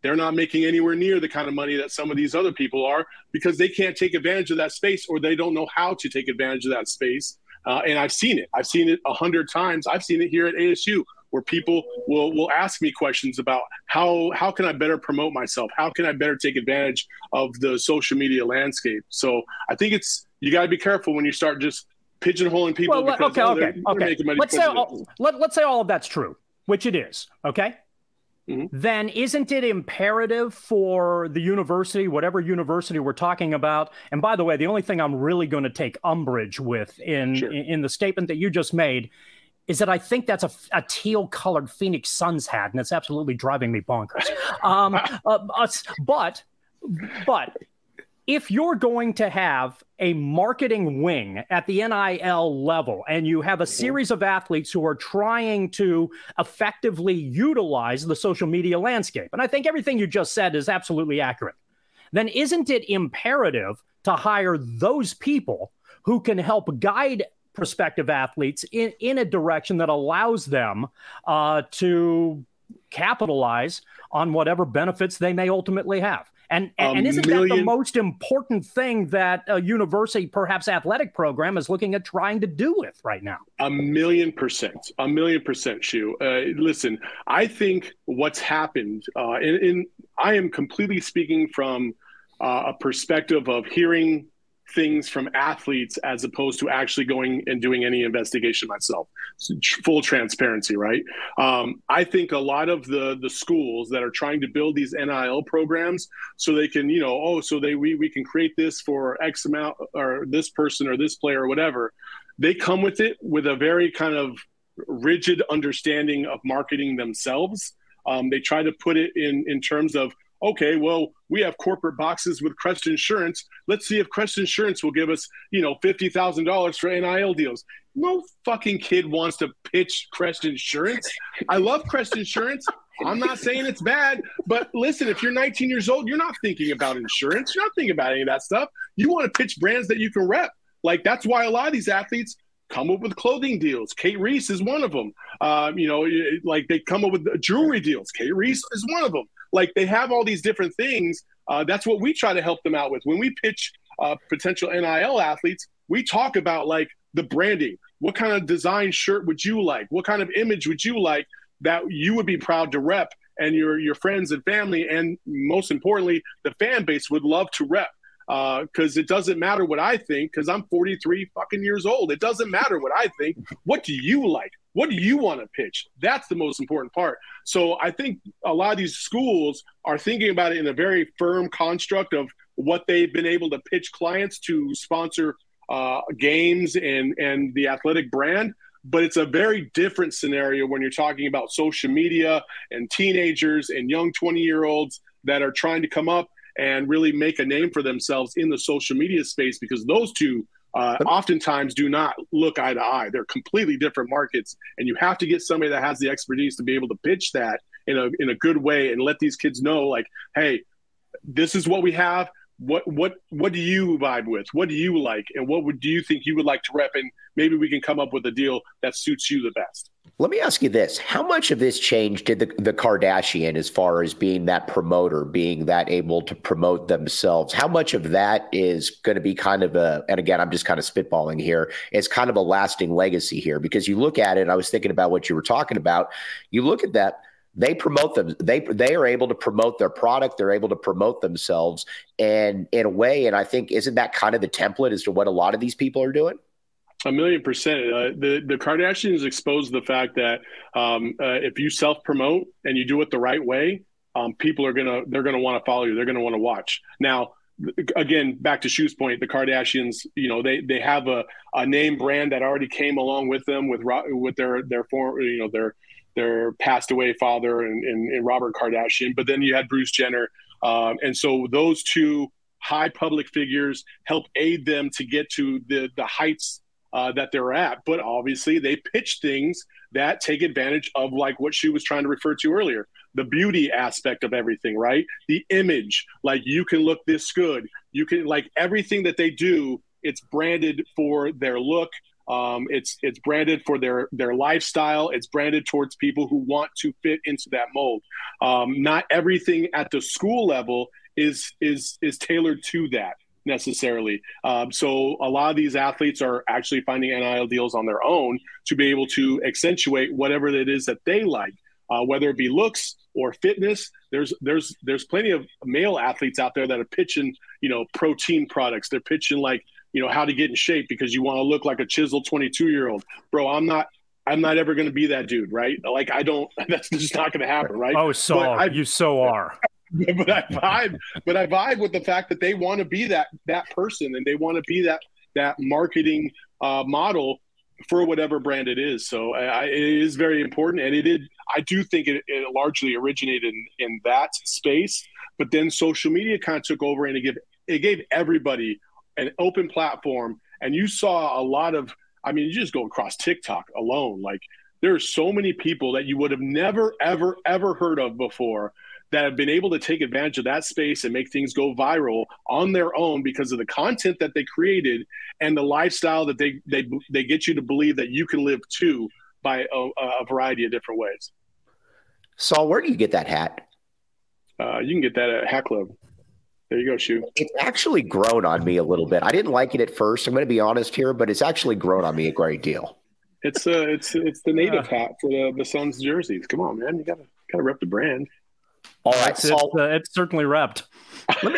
they're not making anywhere near the kind of money that some of these other people are because they can't take advantage of that space or they don't know how to take advantage of that space. Uh, and I've seen it. I've seen it a hundred times. I've seen it here at A S U where people will will ask me questions about how how can I better promote myself? How can I better take advantage of the social media landscape? So I think it's you got to be careful when you start just pigeonholing people. Well, because, okay, oh, okay, they're, they're okay. making money Let's say because of all, let, let's say all of that's true, which it is. Okay. Mm-hmm. Then isn't it imperative for the university, whatever university we're talking about? And by the way, the only thing I'm really going to take umbrage with in, sure. in in the statement that you just made is that I think that's a, a teal-colored Phoenix Suns hat, and it's absolutely driving me bonkers. Um, uh, but but if you're going to have a marketing wing at the N I L level and you have a series of athletes who are trying to effectively utilize the social media landscape, and I think everything you just said is absolutely accurate, then isn't it imperative to hire those people who can help guide prospective athletes in, in a direction that allows them uh, to capitalize on whatever benefits they may ultimately have? And, and, and isn't million, that the most important thing that a university, perhaps athletic program, is looking at trying to do with right now? A million percent, a million percent, Shu. Uh, listen, I think what's happened, uh, in, in I am completely speaking from uh, a perspective of hearing things from athletes as opposed to actually going and doing any investigation myself. So, full transparency, right? Um, I think a lot of the the schools that are trying to build these N I L programs so they can, you know, oh, so they we we can create this for X amount or this person or this player or whatever. They come with it with a very kind of rigid understanding of marketing themselves. Um, they try to put it in in terms of, okay, well, we have corporate boxes with Crest Insurance. Let's see if Crest Insurance will give us, you know, fifty thousand dollars for N I L deals. No fucking kid wants to pitch Crest Insurance. I love Crest Insurance. I'm not saying it's bad, but listen, if you're nineteen years old, you're not thinking about insurance. You're not thinking about any of that stuff. You want to pitch brands that you can rep. Like, that's why a lot of these athletes come up with clothing deals. Kate Reese is one of them. Um, you know, like they come up with jewelry deals. Kate Reese is one of them. Like, they have all these different things. Uh, that's what we try to help them out with. When we pitch uh, potential N I L athletes, we talk about like the branding. What kind of design shirt would you like? What kind of image would you like that you would be proud to rep and your, your friends and family, and most importantly, the fan base would love to rep? Because uh, it doesn't matter what I think, because I'm forty-three fucking years old. It doesn't matter what I think. What do you like? What do you want to pitch? That's the most important part. So I think a lot of these schools are thinking about it in a very firm construct of what they've been able to pitch clients to sponsor uh, games and, and the athletic brand. But it's a very different scenario when you're talking about social media and teenagers and young twenty-year-olds that are trying to come up and really make a name for themselves in the social media space, because those two uh, oftentimes do not look eye to eye. They're completely different markets, and you have to get somebody that has the expertise to be able to pitch that in a in a good way and let these kids know, like, hey, this is what we have. What what what do you vibe with? What do you like? And what would do you think you would like to rep? And maybe we can come up with a deal that suits you the best. Let me ask you this. How much of this change did the, the Kardashian as far as being that promoter, being that able to promote themselves? How much of that is going to be kind of a, and again, I'm just kind of spitballing here, it's kind of a lasting legacy here? Because you look at it, and I was thinking about what you were talking about. You look at that, they promote them. They they are able to promote their product. They're able to promote themselves. And in a way, and I think, isn't that kind of the template as to what a lot of these people are doing? A million percent. Uh, the the Kardashians exposed the fact that um, uh, if you self promote and you do it the right way, um, people are gonna they're gonna want to follow you. They're gonna want to watch. Now, again, back to Shu's point, the Kardashians, you know, they they have a, a name brand that already came along with them with with their their form, you know, their their passed away father and, and, and Robert Kardashian. But then you had Bruce Jenner, um, and so those two high public figures help aid them to get to the the heights Uh, that they're at. But obviously they pitch things that take advantage of, like what she was trying to refer to earlier, the beauty aspect of everything, right? The image, like you can look this good. You can, like everything that they do, it's branded for their look. Um, it's it's branded for their their lifestyle. It's branded towards people who want to fit into that mold. Um, not everything at the school level is is is tailored to that necessarily. Um, so a lot of these athletes are actually finding N I L deals on their own to be able to accentuate whatever it is that they like, uh, whether it be looks or fitness. There's there's there's plenty of male athletes out there that are pitching, you know, protein products. They're pitching like, you know, how to get in shape because you want to look like a chiseled twenty-two year old. Bro, I'm not, I'm not ever going to be that dude. Right. Like, I don't, that's just not going to happen. Right. Oh, so I, you so are. But I vibe, but I vibe with the fact that they want to be that, that person and they want to be that, that marketing uh, model for whatever brand it is. So I, it is very important. And it did, I do think it, it largely originated in, in that space, but then social media kind of took over and it gave, it gave everybody an open platform. And you saw a lot of, I mean, you just go across TikTok alone. Like there are so many people that you would have never, ever, ever heard of before that have been able to take advantage of that space and make things go viral on their own because of the content that they created and the lifestyle that they, they, they get you to believe that you can live too by a, a variety of different ways. Saul, where do you get that hat? Uh, you can get that at Hat Club. There you go, Shu. It's actually grown on me a little bit. I didn't like it at first. I'm going to be honest here, but it's actually grown on me a great deal. It's uh, it's it's the native hat for the, the Suns jerseys. Come on, man, you gotta gotta rep the brand. All right, it's, Saul, it's, uh, it's certainly repped. Let me,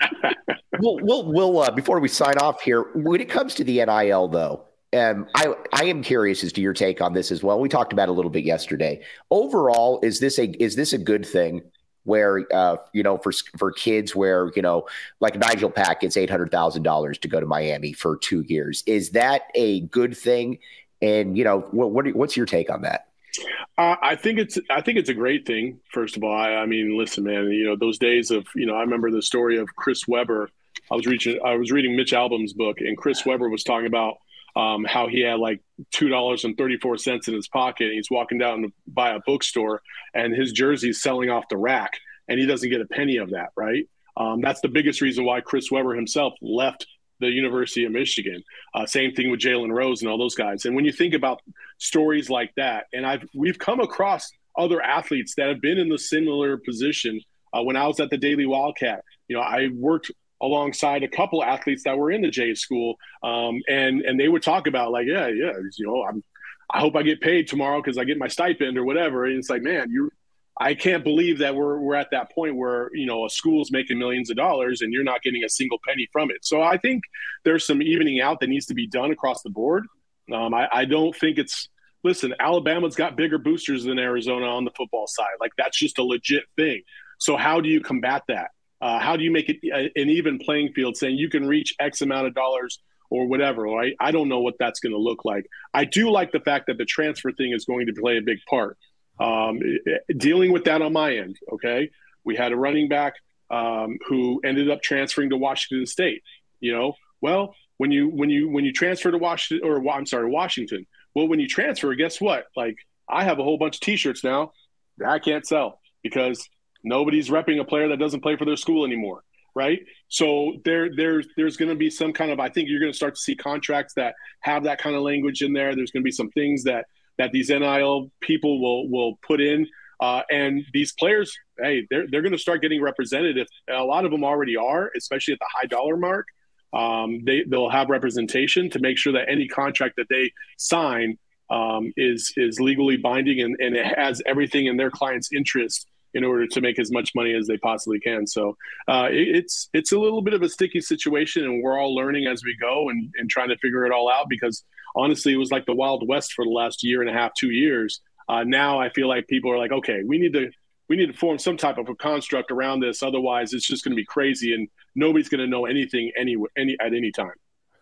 we'll we'll, we'll uh, before we sign off here, when it comes to the N I L though, um, I I am curious as to your take on this as well. We talked about it a little bit yesterday. Overall, is this a is this a good thing? Where, uh, you know, for for kids where, you know, like Nigel Pack gets eight hundred thousand dollars to go to Miami for two years. Is that a good thing? And, you know, what, what what's your take on that? Uh, I think it's I think it's a great thing. First of all, I, I mean, listen, man, you know, those days of, you know, I remember the story of Chris Webber. I was reaching I was reading Mitch Albom's book, and Chris Webber was talking about um, how he had like two dollars and thirty-four cents in his pocket. And he's walking down to buy a bookstore and his jersey's selling off the rack and he doesn't get a penny of that. Right. Um, that's the biggest reason why Chris Webber himself left the University of Michigan. Uh, same thing with Jalen Rose and all those guys. And when you think about stories like that, and I've, we've come across other athletes that have been in the similar position. Uh, when I was at the Daily Wildcat, you know, I worked alongside a couple athletes that were in the J school. Um, and, and they would talk about like, yeah, yeah, you know, I'm, I hope I get paid tomorrow because I get my stipend or whatever. And it's like, man, you, I can't believe that we're, we're at that point where, you know, a school's making millions of dollars and you're not getting a single penny from it. So I think there's some evening out that needs to be done across the board. Um, I, I don't think it's, listen, Alabama's got bigger boosters than Arizona on the football side. Like that's just a legit thing. So how do you combat that? Uh, how do you make it a, an even playing field saying you can reach X amount of dollars or whatever, right? I don't know what that's going to look like. I do like the fact that the transfer thing is going to play a big part. Um, dealing with that on my end, okay? We had a running back um, who ended up transferring to Washington State. You know, well, when you when you when you transfer to Washington, or I'm sorry, Washington. Well, when you transfer, guess what? Like, I have a whole bunch of T-shirts now that I can't sell because nobody's repping a player that doesn't play for their school anymore, right? So there, there's there's going to be some kind of, I think you're going to start to see contracts that have that kind of language in there. There's going to be some things that that these N I L people will will put in, uh, and these players, hey, they're they're going to start getting represented. If a lot of them already are, especially at the high dollar mark. Um, they they'll have representation to make sure that any contract that they sign um, is is legally binding and, and it has everything in their client's interest in order to make as much money as they possibly can. So uh, it, it's it's a little bit of a sticky situation, and we're all learning as we go and, and trying to figure it all out because honestly, it was like the Wild West for the last year and a half, two years. Uh, now I feel like people are like, okay, we need to we need to form some type of a construct around this. Otherwise, it's just going to be crazy, and nobody's going to know anything any any at any time.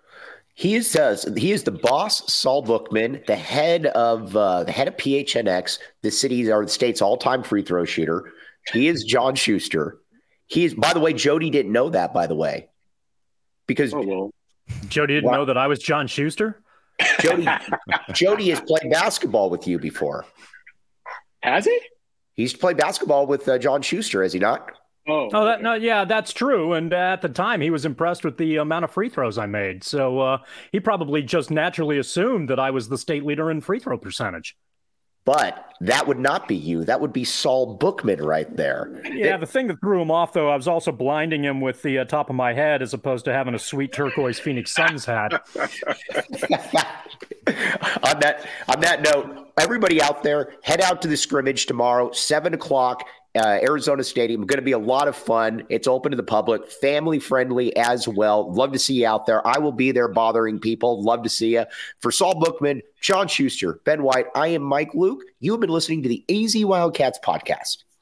He is uh, he is the boss, Saul Bookman, the head of uh, the head of P H N X, the city's or the state's all-time free throw shooter. He is John Schuster. He is, by the way, Jody didn't know that, by the way, because oh, well. Jody didn't wow. know that I was John Schuster. Jody Jody has played basketball with you before. Has he? He's played basketball with uh, John Schuster, has he not? Oh, oh, that, okay. no, yeah, that's true. And at the time, he was impressed with the amount of free throws I made. So uh, he probably just naturally assumed that I was the state leader in free throw percentage. But that would not be you. That would be Saul Bookman right there. Yeah, the thing that threw him off, though, I was also blinding him with the uh, top of my head as opposed to having a sweet turquoise Phoenix Suns hat. on that on that note, everybody out there, head out to the scrimmage tomorrow, seven o'clock. Uh, Arizona Stadium. Going to be a lot of fun. It's open to the public, family friendly as well. Love to see you out there. I will be there bothering people. Love to see you. For Saul Bookman, John Schuster, Ben White, I am Mike Luke. You have been listening to the A Z Wildcats podcast.